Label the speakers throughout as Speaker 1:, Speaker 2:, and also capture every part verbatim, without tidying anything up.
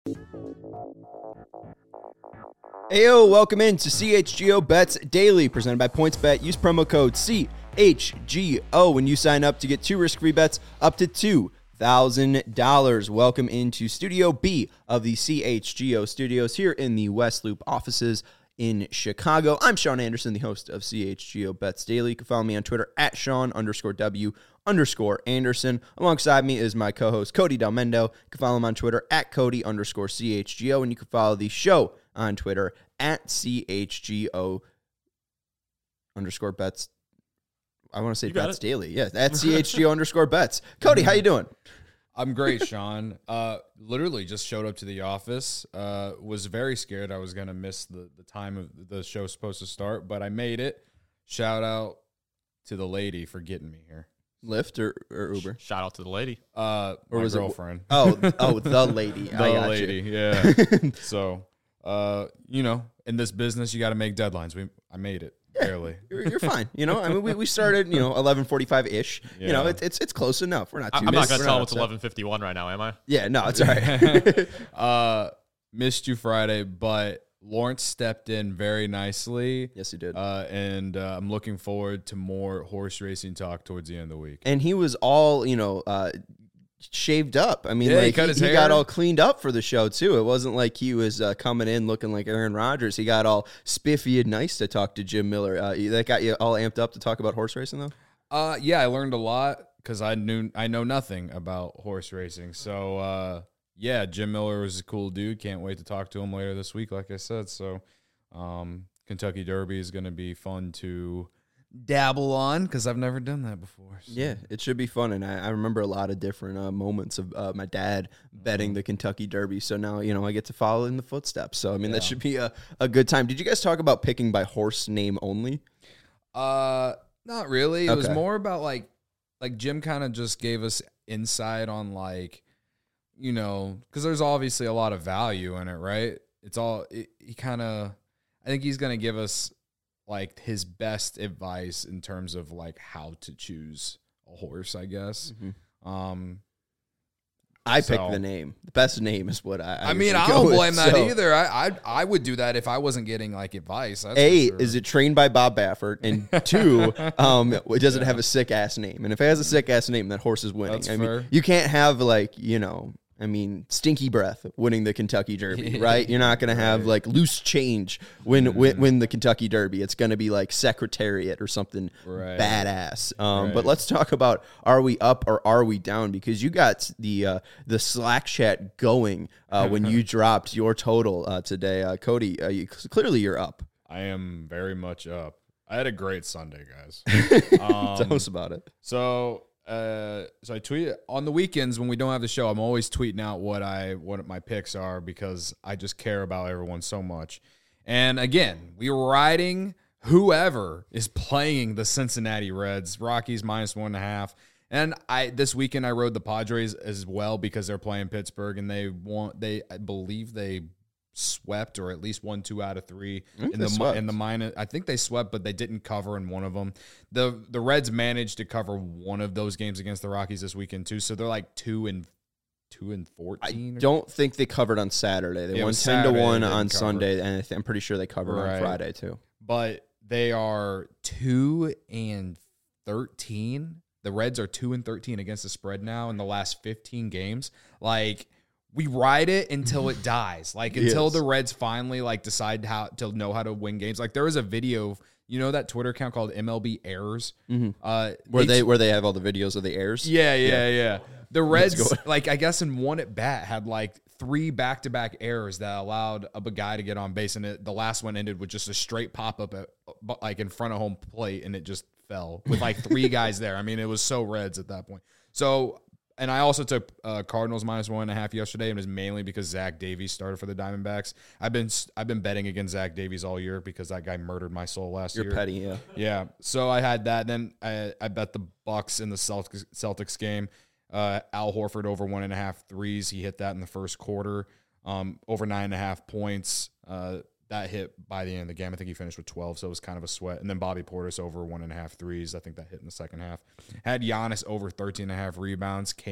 Speaker 1: Heyo, welcome in to C H G O Bets Daily, presented by PointsBet. Use promo code C H G O when you sign up to get two risk-free bets up to two thousand dollars. Welcome into Studio B of the C H G O studios here in the West Loop offices in Chicago. I'm Sean Anderson, the host of C H G O Bets Daily. You can follow me on Twitter at Sean underscore W underscore Anderson. Alongside me is my co-host Cody Delmendo. You can follow him on Twitter at Cody underscore C H G O, and you can follow the show on Twitter at C H G O underscore bets. I want to say bets it. daily. Yeah, at C H G O underscore bets. Cody, how you doing?
Speaker 2: I'm great, Sean. Uh, literally just showed up to the office. Uh, was very scared I was going to miss the, the time of the show supposed to start, but I made it. Shout out to the lady for getting me here.
Speaker 1: Lyft or, or Uber?
Speaker 3: Shout out to the lady.
Speaker 2: Uh,
Speaker 1: or
Speaker 2: my
Speaker 1: was
Speaker 2: girlfriend.
Speaker 1: It, oh, oh, the lady.
Speaker 2: the
Speaker 1: I got
Speaker 2: lady,
Speaker 1: you.
Speaker 2: yeah. So, uh, you know, in this business, you got to make deadlines. We, I made it.
Speaker 1: Yeah,
Speaker 2: barely.
Speaker 1: You're, you're fine. You know, I mean, we, we started, you know, eleven forty-five ish.
Speaker 2: Yeah.
Speaker 1: You know, it's it's it's close enough. We're not too
Speaker 3: I'm not going to tell him
Speaker 1: it's
Speaker 3: it's eleven fifty-one right now, am I?
Speaker 1: Yeah, no, it's all right.
Speaker 2: uh, missed you Friday, but Lawrence stepped in very nicely.
Speaker 1: Yes, he did.
Speaker 2: Uh, and uh, I'm looking forward to more horse racing talk towards the end of the week.
Speaker 1: And he was all, you know, uh, shaved up. I mean,
Speaker 2: yeah,
Speaker 1: like
Speaker 2: he, cut
Speaker 1: he,
Speaker 2: his
Speaker 1: he
Speaker 2: hair.
Speaker 1: got all cleaned up for the show too. It wasn't like he was uh, coming in looking like Aaron Rodgers. He got all spiffy and nice to talk to Jim Miller. Uh, that got you all amped up to talk about horse racing, though.
Speaker 2: Uh, yeah, I learned a lot because I knew I know nothing about horse racing. So, uh, yeah, Jim Miller was a cool dude. Can't wait to talk to him later this week, like I said. So, um, Kentucky Derby is going to be fun to dabble on because I've never done that before. So.
Speaker 1: Yeah, it should be fun, and I, I remember a lot of different uh, moments of uh, my dad betting the Kentucky Derby. So now, you know, I get to follow in the footsteps. So I mean,
Speaker 2: Yeah.
Speaker 1: that should be a, a good time. Did you guys talk about picking by horse name only?
Speaker 2: Uh, not really. It
Speaker 1: Okay.
Speaker 2: was more about like, like Jim kind of just gave us insight on like, you know, because there's obviously a lot of value in it, right? It's all it, he kind of. I think he's gonna give us like his best advice in terms of like how to choose a horse, I guess.
Speaker 1: Mm-hmm.
Speaker 2: Um,
Speaker 1: I
Speaker 2: so,
Speaker 1: picked the name. The best name is what I. I,
Speaker 2: I mean, I
Speaker 1: usually
Speaker 2: don't
Speaker 1: go with,
Speaker 2: blame that
Speaker 1: so.
Speaker 2: either. I, I I would do that if I wasn't getting like advice. That's
Speaker 1: A,
Speaker 2: for sure.
Speaker 1: is it trained by Bob Baffert? And two, um, does it have a sick ass name? And if it has a sick ass name, that horse is winning.
Speaker 2: That's
Speaker 1: I
Speaker 2: fair.
Speaker 1: mean, you can't have like, you know, I mean, Stinky Breath winning the Kentucky Derby, right? You're not going to have
Speaker 2: Right.
Speaker 1: like Loose Change win, mm-hmm. win win the Kentucky Derby. It's going to be like Secretariat or something
Speaker 2: Right.
Speaker 1: badass. Um,
Speaker 2: Right.
Speaker 1: But let's talk about, are we up or are we down? Because you got the uh, the Slack chat going uh, when you dropped your total uh, today. Uh, Cody, uh, you, clearly you're up.
Speaker 2: I am very much up. I had a great Sunday, guys. Um,
Speaker 1: Tell us about it.
Speaker 2: So, uh, so I tweet on the weekends when we don't have the show. I'm always tweeting out what I what my picks are because I just care about everyone so much. And again, we were riding whoever is playing the Cincinnati Reds. Rockies minus one and a half. And I this weekend I rode the Padres as well because they're playing Pittsburgh and they want they I believe they swept or at least won two out of three in the
Speaker 1: swept.
Speaker 2: in the minus. I think they swept, but they didn't cover in one of them. the The Reds managed to cover one of those games against the Rockies this weekend too, so they're like two and two and
Speaker 1: I
Speaker 2: fourteen.
Speaker 1: don't think they covered on Saturday. They
Speaker 2: Yeah, it
Speaker 1: won
Speaker 2: was
Speaker 1: ten to
Speaker 2: Saturday
Speaker 1: one
Speaker 2: they didn't
Speaker 1: on
Speaker 2: cover.
Speaker 1: Sunday, and I th- I'm pretty sure they covered on
Speaker 2: Right.
Speaker 1: Friday too.
Speaker 2: But they are two and thirteen. The Reds are two and thirteen against the spread now in the last fifteen games. Like. We ride it until it dies. Like until
Speaker 1: Yes.
Speaker 2: the Reds finally like decide how to know how to win games. Like there was a video, you know, that Twitter account called M L B Errors.
Speaker 1: Mm-hmm.
Speaker 2: Uh,
Speaker 1: Where they where they have all the videos of the airs.
Speaker 2: yeah, yeah, yeah. The
Speaker 1: Let's
Speaker 2: Reds,
Speaker 1: go.
Speaker 2: like I guess in one at bat, had like three back to back errors that allowed a guy to get on base, and it, the last one ended with just a straight pop up at like in front of home plate, and it just fell with like three guys there. I mean, it was so Reds at that point. So. And I also took uh, Cardinals minus one and a half yesterday, and it was mainly because Zach Davies started for the Diamondbacks. I've been I've been betting against Zach Davies all year because that guy murdered my soul last
Speaker 1: You're
Speaker 2: year.
Speaker 1: petty, yeah.
Speaker 2: Yeah. So I had that. Then I, I bet the Bucks in the Celtics, Celtics game. Uh, Al Horford over one and a half threes. He hit that in the first quarter. Um, over nine and a half points. Uh, that hit by the end of the game. I think he finished with twelve, so it was kind of a sweat. And then Bobby Portis over one and a half threes. I think that hit in the second half. Had Giannis over thirteen and a half rebounds. Came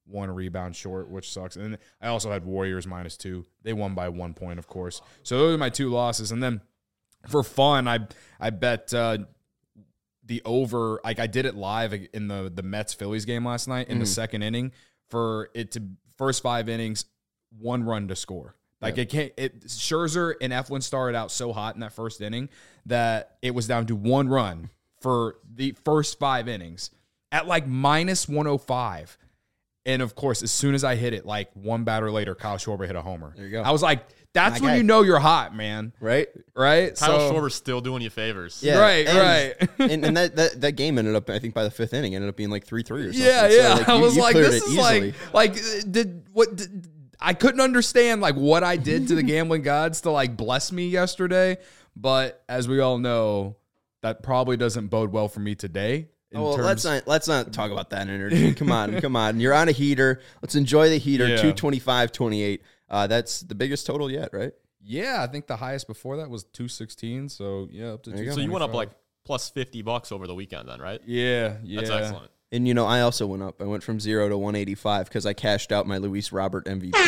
Speaker 2: one rebound short, which sucks. And then I also had Warriors minus two. They won by one point, of course. So those are my two losses. And then for fun, I I bet uh, the over. Like I did it live in the the Mets Phillies game last night in mm. the second inning for it to first five innings, one run to score. Like yeah. it can't. It Scherzer and Eflin started out so hot in that first inning that it was down to one run for the first five innings at like minus one oh five. And, of course, as soon as I hit it, like one batter later, Kyle Schwarber hit a homer.
Speaker 1: There you go.
Speaker 2: I was like, that's
Speaker 1: My
Speaker 2: when
Speaker 1: guy.
Speaker 2: you know you're hot, man.
Speaker 1: Right?
Speaker 2: Right?
Speaker 3: Kyle
Speaker 2: so,
Speaker 3: Schwarber's still doing you favors.
Speaker 1: Yeah.
Speaker 2: Right,
Speaker 1: and,
Speaker 2: right.
Speaker 1: and and that, that, that game ended up, I think, by the fifth inning, ended up being like three three or something.
Speaker 2: Yeah,
Speaker 1: So,
Speaker 2: yeah.
Speaker 1: like,
Speaker 2: I
Speaker 1: you-
Speaker 2: was
Speaker 1: you
Speaker 2: like,
Speaker 1: cleared
Speaker 2: this
Speaker 1: it
Speaker 2: is
Speaker 1: easily.
Speaker 2: like, like, did, what, did, I couldn't understand, like, what I did to the gambling gods to, like, bless me yesterday. But as we all know, that probably doesn't bode well for me today.
Speaker 1: Oh, well,
Speaker 2: terms-
Speaker 1: let's not let's not talk about that energy. Come on, come on. You're on a heater. Let's enjoy the heater.
Speaker 2: Yeah.
Speaker 1: two twenty-five twenty-eight. Uh, that's the biggest total yet, right?
Speaker 2: Yeah, I think the highest before that was two sixteen. So, yeah, up to
Speaker 1: There you go.
Speaker 3: So you went up
Speaker 2: two twenty-five.
Speaker 3: like plus fifty bucks over the weekend then, right?
Speaker 2: Yeah, yeah.
Speaker 3: That's excellent.
Speaker 1: And you know, I also went up. I went from zero to one eighty-five because I cashed out my Luis Robert M V P.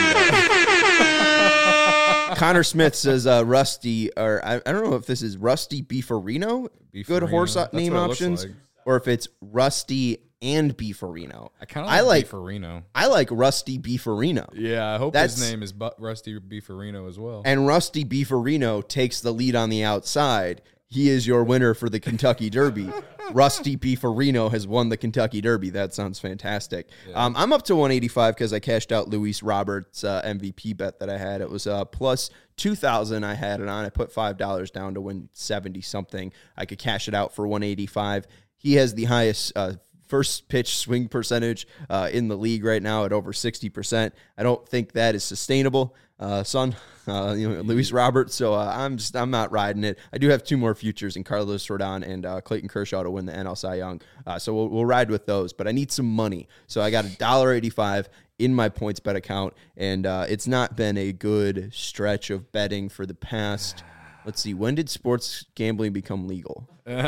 Speaker 1: Connor Smith says uh, Rusty, or I, I don't know if this is Rusty Beefarino, good
Speaker 2: Beefarino.
Speaker 1: horse
Speaker 2: That's
Speaker 1: name
Speaker 2: what it looks
Speaker 1: options,
Speaker 2: like.
Speaker 1: or if it's Rusty and Beefarino.
Speaker 2: I kind of
Speaker 1: I like
Speaker 2: Beefarino.
Speaker 1: I like Rusty Beefarino.
Speaker 2: Yeah, I hope
Speaker 1: That's-
Speaker 2: his name is Bu- Rusty Beefarino as well.
Speaker 1: And Rusty Beefarino takes the lead on the outside. He is your winner for the Kentucky Derby. Rusty Beefarino has won the Kentucky Derby. That sounds fantastic. Yeah. Um, I'm up to one eighty-five because I cashed out Luis Roberts' uh, M V P bet that I had. It was uh, plus two thousand I had it on. I put five dollars down to win seventy-something. I could cash it out for one eighty-five. He has the highest uh, first pitch swing percentage uh, in the league right now at over sixty percent. I don't think that is sustainable, uh, son. Uh, you know, Luis Roberts. So uh, I'm just I'm not riding it. I do have two more futures in Carlos Rodon and uh, Clayton Kershaw to win the N L Cy Young. Uh, so we'll, we'll ride with those. But I need some money. So I got a dollar eighty-five in my points bet account, and uh, it's not been a good stretch of betting for the past. Let's see. When did sports gambling become legal?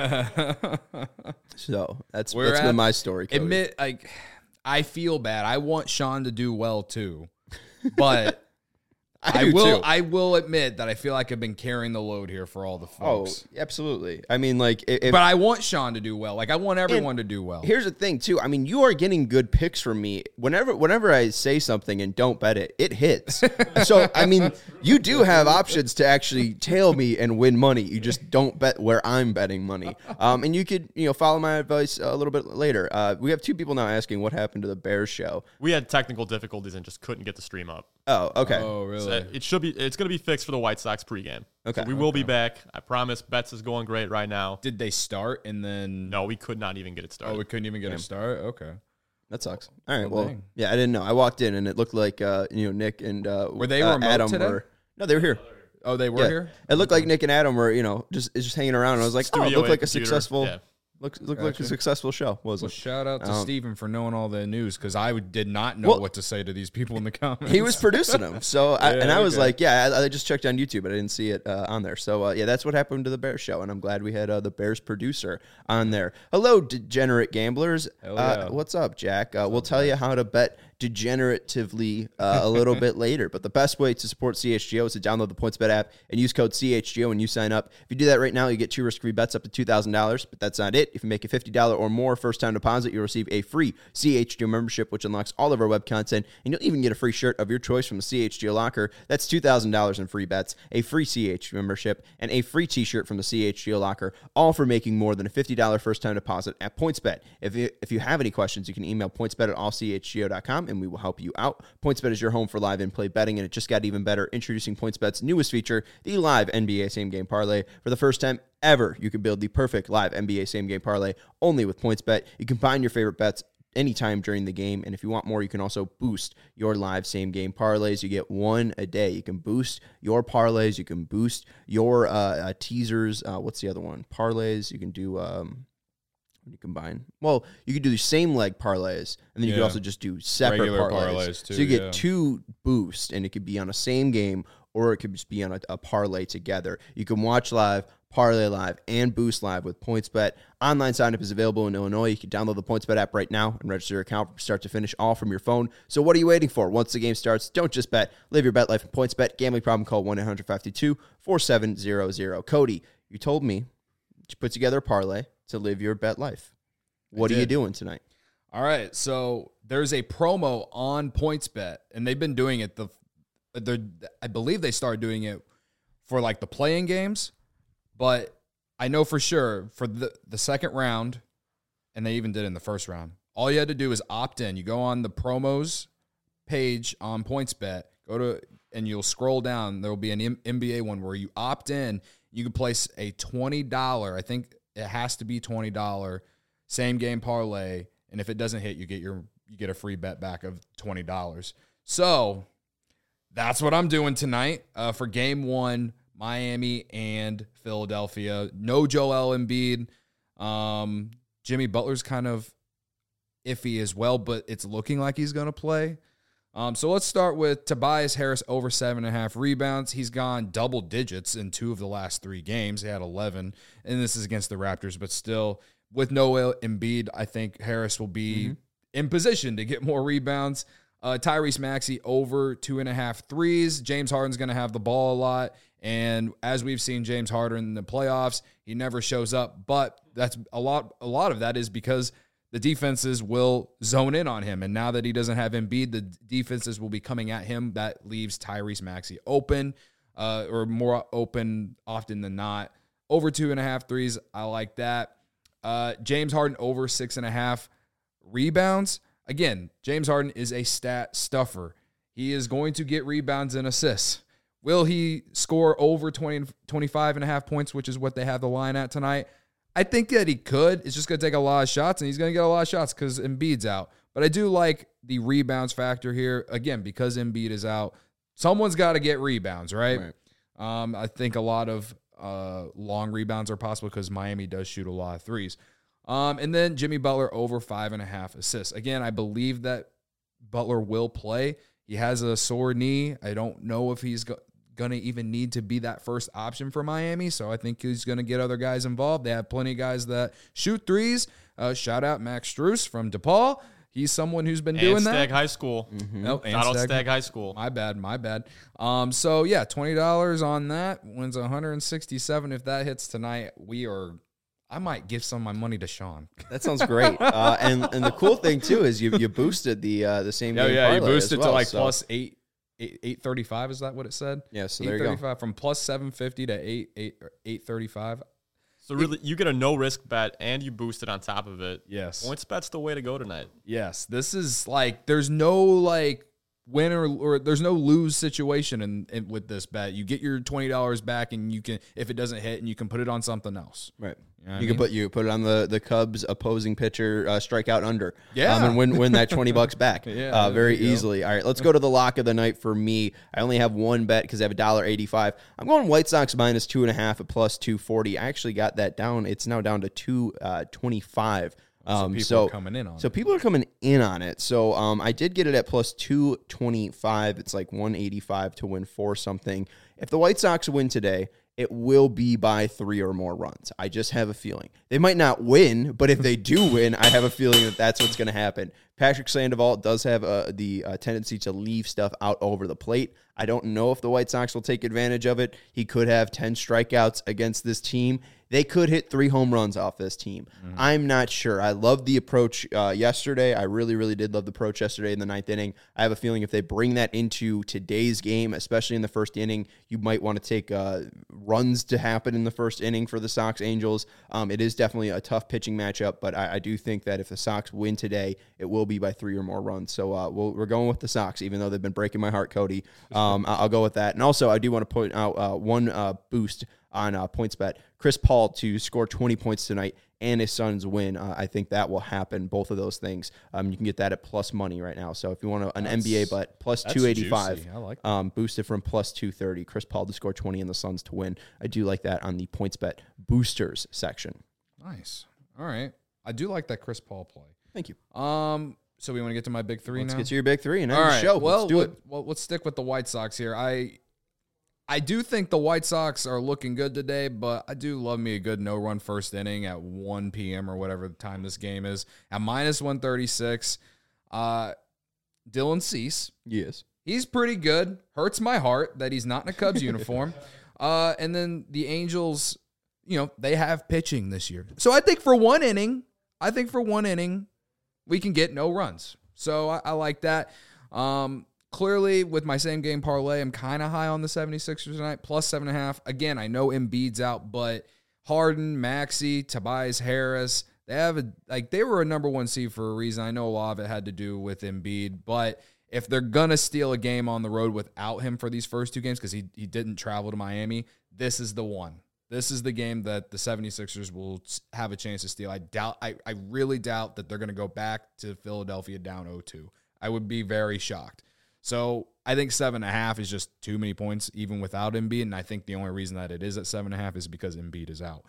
Speaker 1: So that's
Speaker 2: We're
Speaker 1: that's
Speaker 2: at-
Speaker 1: been my story. Cody.
Speaker 2: Admit, like, I feel bad. I want Sean to do well too, but
Speaker 1: I,
Speaker 2: I,
Speaker 1: do
Speaker 2: will.
Speaker 1: too.
Speaker 2: I will admit that I feel like I've been carrying the load here for all the
Speaker 1: oh,
Speaker 2: folks.
Speaker 1: absolutely. I mean, like, if,
Speaker 2: But I want Sean to do well. Like, I want everyone to do well.
Speaker 1: here's the thing, too. I mean, you are getting good picks from me. Whenever whenever I say something and don't bet it, it hits. So, I mean, you do have options to actually tail me and win money. You just don't bet where I'm betting money. Um, and you could, you know, follow my advice a little bit later. Uh, we have two people now asking what happened to the Bears show.
Speaker 3: We had technical difficulties and just couldn't get the stream up.
Speaker 1: Oh, okay.
Speaker 2: Oh, really?
Speaker 3: So it should be. It's going to be fixed for the White Sox pregame.
Speaker 1: Okay.
Speaker 3: So we will be back. I promise. Betts is going great right now.
Speaker 2: Did they start and then?
Speaker 3: No, we could not even get it started.
Speaker 2: Oh, we couldn't even get a start. Okay.
Speaker 1: That sucks. All right.
Speaker 2: Well,
Speaker 1: Well,
Speaker 2: dang.
Speaker 1: yeah, I didn't know. I walked in and it looked like uh, you know Nick and uh,
Speaker 2: Were they
Speaker 1: uh,
Speaker 2: remote
Speaker 1: Adam
Speaker 2: today?
Speaker 1: were. No, they were here.
Speaker 2: Oh, they were
Speaker 1: Yeah.
Speaker 2: here.
Speaker 1: It looked like Nick and Adam were, you know, just just hanging around. And I was like, oh, it
Speaker 3: Studio
Speaker 1: looked like a
Speaker 3: A, computer.
Speaker 1: successful,
Speaker 3: Yeah.
Speaker 1: looked looked like a
Speaker 2: Gotcha.
Speaker 1: successful show. Was
Speaker 2: Well,
Speaker 1: it?
Speaker 2: shout out to
Speaker 1: Um,
Speaker 2: Steven for knowing all the news because I did not know
Speaker 1: Well,
Speaker 2: what to say to these people in the comments.
Speaker 1: He was producing them, so I,
Speaker 2: Yeah,
Speaker 1: and I was
Speaker 2: okay.
Speaker 1: like, yeah, I, I just checked on YouTube, but I didn't see it uh, on there. So uh, yeah, that's what happened to the Bears show, and I'm glad we had uh, the Bears producer on there. Hello, degenerate gamblers.
Speaker 2: Hell
Speaker 1: Uh,
Speaker 2: yeah.
Speaker 1: what's up, Jack? Uh, we'll tell you how to bet degeneratively uh, a little bit later. But the best way to support C H G O is to download the PointsBet app and use code C H G O when you sign up. If you do that right now, you get two risk-free bets up to two thousand dollars. But that's not it. If you make a fifty dollars or more first-time deposit, you'll receive a free C H G O membership, which unlocks all of our web content. And you'll even get a free shirt of your choice from the C H G O locker. That's two thousand dollars in free bets, a free C H G O membership, and a free t-shirt from the C H G O locker, all for making more than a fifty dollars first-time deposit at PointsBet. If you, if you have any questions, you can email pointsbet at all c h g o dot com, and we will help you out. PointsBet is your home for live in-play betting, and it just got even better. Introducing PointsBet's newest feature, the live N B A same-game parlay. For the first time ever, you can build the perfect live N B A same-game parlay only with PointsBet. You combine your favorite bets anytime during the game, and if you want more, you can also boost your live same-game parlays. You get one a day. You can boost your parlays. You can boost your uh, uh, teasers. Uh, what's the other one? Parlays. You can do... Um, When you combine, well, you could do the same leg parlays, and then you could
Speaker 2: Yeah.
Speaker 1: also just do separate
Speaker 2: Regular
Speaker 1: parlays.
Speaker 2: parlays, too,
Speaker 1: so you get
Speaker 2: yeah.
Speaker 1: two boosts, and it could be on a same game, or it could just be on a, a parlay together. You can watch live, Parlay Live, and Boost Live with PointsBet. Online sign-up is available in Illinois. You can download the PointsBet app right now and register your account from start to finish, all from your phone. So what are you waiting for? Once the game starts, don't just bet. Live your bet life in PointsBet. Gambling problem, call one eight hundred five two two four seven zero zero. Cody, you told me to put together a parlay to live your bet life. What are you doing tonight?
Speaker 2: All right, so there's a promo on PointsBet, and they've been doing it. The, I believe they started doing it for like the playing games. But I know for sure for the, the second round, and they even did it in the first round, all you had to do is opt in. You go on the promos page on PointsBet, go to, and you'll scroll down. There will be an N B A one where you opt in. You can place a twenty dollars, I think it has to be twenty dollars, same game parlay. And if it doesn't hit, you get your you get a free bet back of twenty dollars. So that's what I'm doing tonight uh, for game one. Miami and Philadelphia. No Joel Embiid. Um, Jimmy Butler's kind of iffy as well, but it's looking like he's going to play. Um, so let's start with Tobias Harris over seven and a half rebounds. He's gone double digits in two of the last three games. He had eleven, and this is against the Raptors, but still, with no Embiid, I think Harris will be mm-hmm. in position to get more rebounds. Uh, Tyrese Maxey over two and a half threes. James Harden's going to have the ball a lot. And as we've seen James Harden in the playoffs, he never shows up. But that's a lot. A lot of that is because the defenses will zone in on him. And now that he doesn't have Embiid, the defenses will be coming at him. That leaves Tyrese Maxey open, uh, or more open often than not. Over two and a half threes, I like that. Uh, James Harden over six and a half rebounds. Again, James Harden is a stat stuffer. He is going to get rebounds and assists. Will he score over twenty, twenty-five and a half points, which is what they have the line at tonight? I think that he could. It's just going to take a lot of shots, and he's going to get a lot of shots because Embiid's out. But I do like the rebounds factor here. Again, because Embiid is out, someone's got to get rebounds, right? right. Um, I think a lot of uh, long rebounds are possible because Miami does shoot a lot of threes. Um, and then Jimmy Butler over five and a half assists. Again, I believe that Butler will play. He has a sore knee. I don't know if he's go- going to even need to be that first option for Miami, so I think he's going to get other guys involved. They have plenty of guys that shoot threes. Uh, shout out Max Strus from DePaul. He's someone who's been
Speaker 3: and
Speaker 2: doing
Speaker 3: Stagg
Speaker 2: that.
Speaker 3: High School.
Speaker 2: Mm-hmm. Nope,
Speaker 3: Shout out Stagg High School.
Speaker 2: My bad, my bad. Um, so, yeah, twenty dollars on that. Wins one hundred sixty-seven. If that hits tonight, we are – I might give some of my money to Sean.
Speaker 1: That sounds great. uh, and and the cool thing, too, is you you boosted the uh, the same
Speaker 2: yeah,
Speaker 1: game
Speaker 2: yeah,
Speaker 1: parlay
Speaker 2: you boosted
Speaker 1: as well,
Speaker 2: to like
Speaker 1: so.
Speaker 2: plus eight. eight thirty-five, is that what it said?
Speaker 1: Yeah, so there you go.
Speaker 2: From plus seven fifty to eight eight eight thirty-five.
Speaker 3: So really, you get a no risk bet and you boost it on top of it.
Speaker 2: Yes,
Speaker 3: PointsBet's the way to go tonight.
Speaker 2: Yes, this is like there's no like win or, or there's no lose situation in, in with this bet. You get your twenty dollars back, and you can, if it doesn't hit, and you can put it on something else.
Speaker 1: Right.
Speaker 2: You know
Speaker 1: you
Speaker 2: can
Speaker 1: mean? put you put it on the, the Cubs opposing pitcher uh, strikeout under.
Speaker 2: Yeah.
Speaker 1: Um, and win win that twenty bucks back.
Speaker 2: Yeah,
Speaker 1: uh, very
Speaker 2: you go.
Speaker 1: easily. All right, let's go to the lock of the night for me. I only have one bet because I have a dollar eighty-five. I'm going White Sox minus two and a half at plus two forty. I actually got that down. It's now down to two twenty-five.
Speaker 2: So
Speaker 1: Um,
Speaker 2: people
Speaker 1: so,
Speaker 2: are coming in on
Speaker 1: so
Speaker 2: it.
Speaker 1: people are coming in on it. So um, I did get it at plus two twenty-five. It's like one eighty-five to win four something. If the White Sox win today, it will be by three or more runs. I just have a feeling. They might not win, but if they do win, I have a feeling that that's what's going to happen. Patrick Sandoval does have uh, the uh, tendency to leave stuff out over the plate. I don't know if the White Sox will take advantage of it. He could have ten strikeouts against this team. They could hit three home runs off this team. Mm-hmm. I'm not sure. I loved the approach uh, yesterday. I really, really did love the approach yesterday in the ninth inning. I have a feeling if they bring that into today's game, especially in the first inning, you might want to take uh, runs to happen in the first inning for the Sox Angels. Um, it is definitely a tough pitching matchup, but I, I do think that if the Sox win today, it will be by three or more runs. So uh, we'll, we're going with the Sox, even though they've been breaking my heart, Cody. Um, I'll go with that. And also, I do want to point out uh, one uh, boost on uh, PointsBet. Chris Paul to score twenty points tonight and his Suns win. Uh, I think that will happen, both of those things. Um, you can get that at plus money right now. So if you want a, an
Speaker 2: That's,
Speaker 1: N B A bet, plus two eighty-five.
Speaker 2: Juicy. I like that.
Speaker 1: Um, boosted from plus two thirty. Chris Paul to score twenty and the Suns to win. I do like that on the PointsBet boosters section.
Speaker 2: Nice. All right. I do like that Chris Paul play.
Speaker 1: Thank you.
Speaker 2: Um. So we want to get to my big three
Speaker 1: Let's
Speaker 2: now?
Speaker 1: get to your big three and end
Speaker 2: All
Speaker 1: the
Speaker 2: right.
Speaker 1: show.
Speaker 2: Well,
Speaker 1: Let's do
Speaker 2: let,
Speaker 1: it.
Speaker 2: well, let's stick with the White Sox here. I I do think the White Sox are looking good today, but I do love me a good no-run first inning at one p.m. or whatever the time this game is. At minus one thirty-six, uh, Dylan Cease.
Speaker 1: Yes.
Speaker 2: He's pretty good. Hurts my heart that he's not in a Cubs uniform. Uh, and then the Angels, you know, they have pitching this year. So I think for one inning, I think for one inning, we can get no runs. So I, I like that. Um, clearly, with my same game parlay, I'm kind of high on the seventy-sixers tonight, plus seven and a half. Again, I know Embiid's out, but Harden, Maxey, Tobias Harris, they have a like they were a number one seed for a reason. I know a lot of it had to do with Embiid, but if they're gonna steal a game on the road without him for these first two games, because he he didn't travel to Miami, this is the one. This is the game that the seventy-sixers will have a chance to steal. I doubt. I, I really doubt that they're going to go back to Philadelphia down oh two. I would be very shocked. So I think seven and a half is just too many points, even without Embiid. And I think the only reason that it is at seven and a half is because Embiid is out.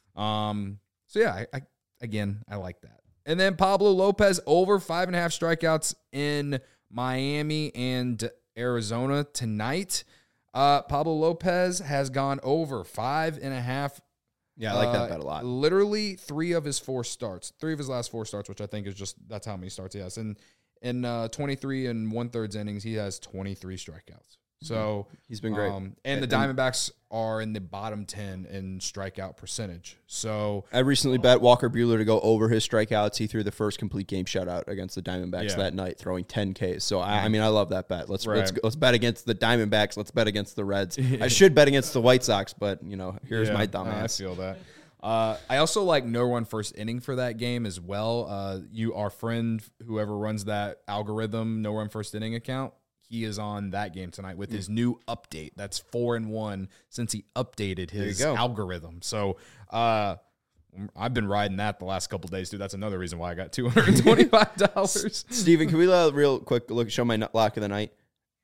Speaker 2: Um. So yeah, I, I again I like that. And then Pablo Lopez over five and a half strikeouts in Miami and Arizona tonight. Uh, Pablo Lopez has gone over five and a half.
Speaker 1: Yeah, I like that
Speaker 2: uh,
Speaker 1: bet a lot.
Speaker 2: Literally three of his four starts, three of his last four starts, which I think is just that's how many starts he has. And in uh, twenty-three and one thirds innings, he has twenty-three strikeouts. So
Speaker 1: he's been great.
Speaker 2: Um, and the Diamondbacks are in the bottom ten in strikeout percentage. So
Speaker 1: I recently bet Walker Buehler to go over his strikeouts. He threw the first complete game shutout against the Diamondbacks
Speaker 2: Yeah.
Speaker 1: that night, throwing ten Ks. So I, I mean, I love that bet. Let's
Speaker 2: Right.
Speaker 1: let's let's bet against the Diamondbacks. Let's bet against the Reds. I should bet against the White Sox, but you know, here's
Speaker 2: Yeah,
Speaker 1: my
Speaker 2: I
Speaker 1: dumbass.
Speaker 2: feel that. Uh, I also like no run first inning for that game as well. Uh, you, our friend, whoever runs that algorithm, no run first inning account, he is on that game tonight with his new update. That's four and one since he updated his
Speaker 1: go.
Speaker 2: algorithm. So uh, I've been riding that the last couple days, dude. That's another reason why I got two hundred twenty-five dollars.
Speaker 1: Steven, can we let a real quick look show my lock of the night?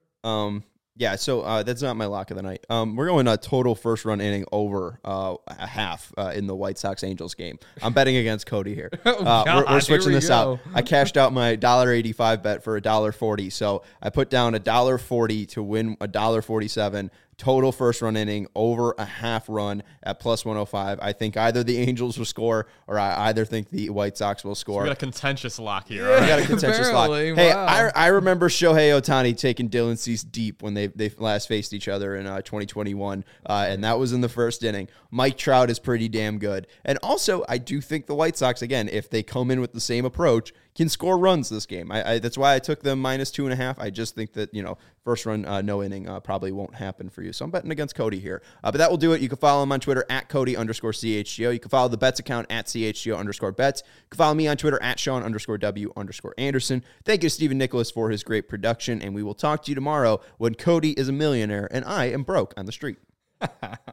Speaker 1: Um, yeah, so uh, that's not my lock of the night. Um, we're going a total first run inning over uh, a half uh, in the White Sox Angels game. I'm betting against Cody here. Uh, we're,
Speaker 2: God,
Speaker 1: we're switching
Speaker 2: here we
Speaker 1: this
Speaker 2: go.
Speaker 1: out. I cashed out my one dollar eighty-five bet for one dollar forty. So I put down one dollar forty to win one dollar forty-seven. Total first run inning over a half run at plus one oh five. I think either the Angels will score or I either think the White Sox will score.
Speaker 3: We got a contentious lock here.
Speaker 2: Yeah.
Speaker 1: We got a contentious lock.
Speaker 2: Apparently,
Speaker 1: Hey,
Speaker 2: wow.
Speaker 1: I, I remember Shohei Ohtani taking Dylan Cease deep when they, they last faced each other in uh, twenty twenty-one, uh, and that was in the first inning. Mike Trout is pretty damn good. And also, I do think the White Sox, again, if they come in with the same approach, can score runs this game. I, I That's why I took them minus two and a half. I just think that, you know, first run, uh, no inning uh, probably won't happen for you. So I'm betting against Cody here. Uh, but that will do it. You can follow him on Twitter at Cody underscore CHGO. You can follow the bets account at CHGO underscore bets. You can follow me on Twitter at Sean underscore W underscore Anderson. Thank you to Stephen Nicholas for his great production. And we will talk to you tomorrow when Cody is a millionaire and I am broke on the street.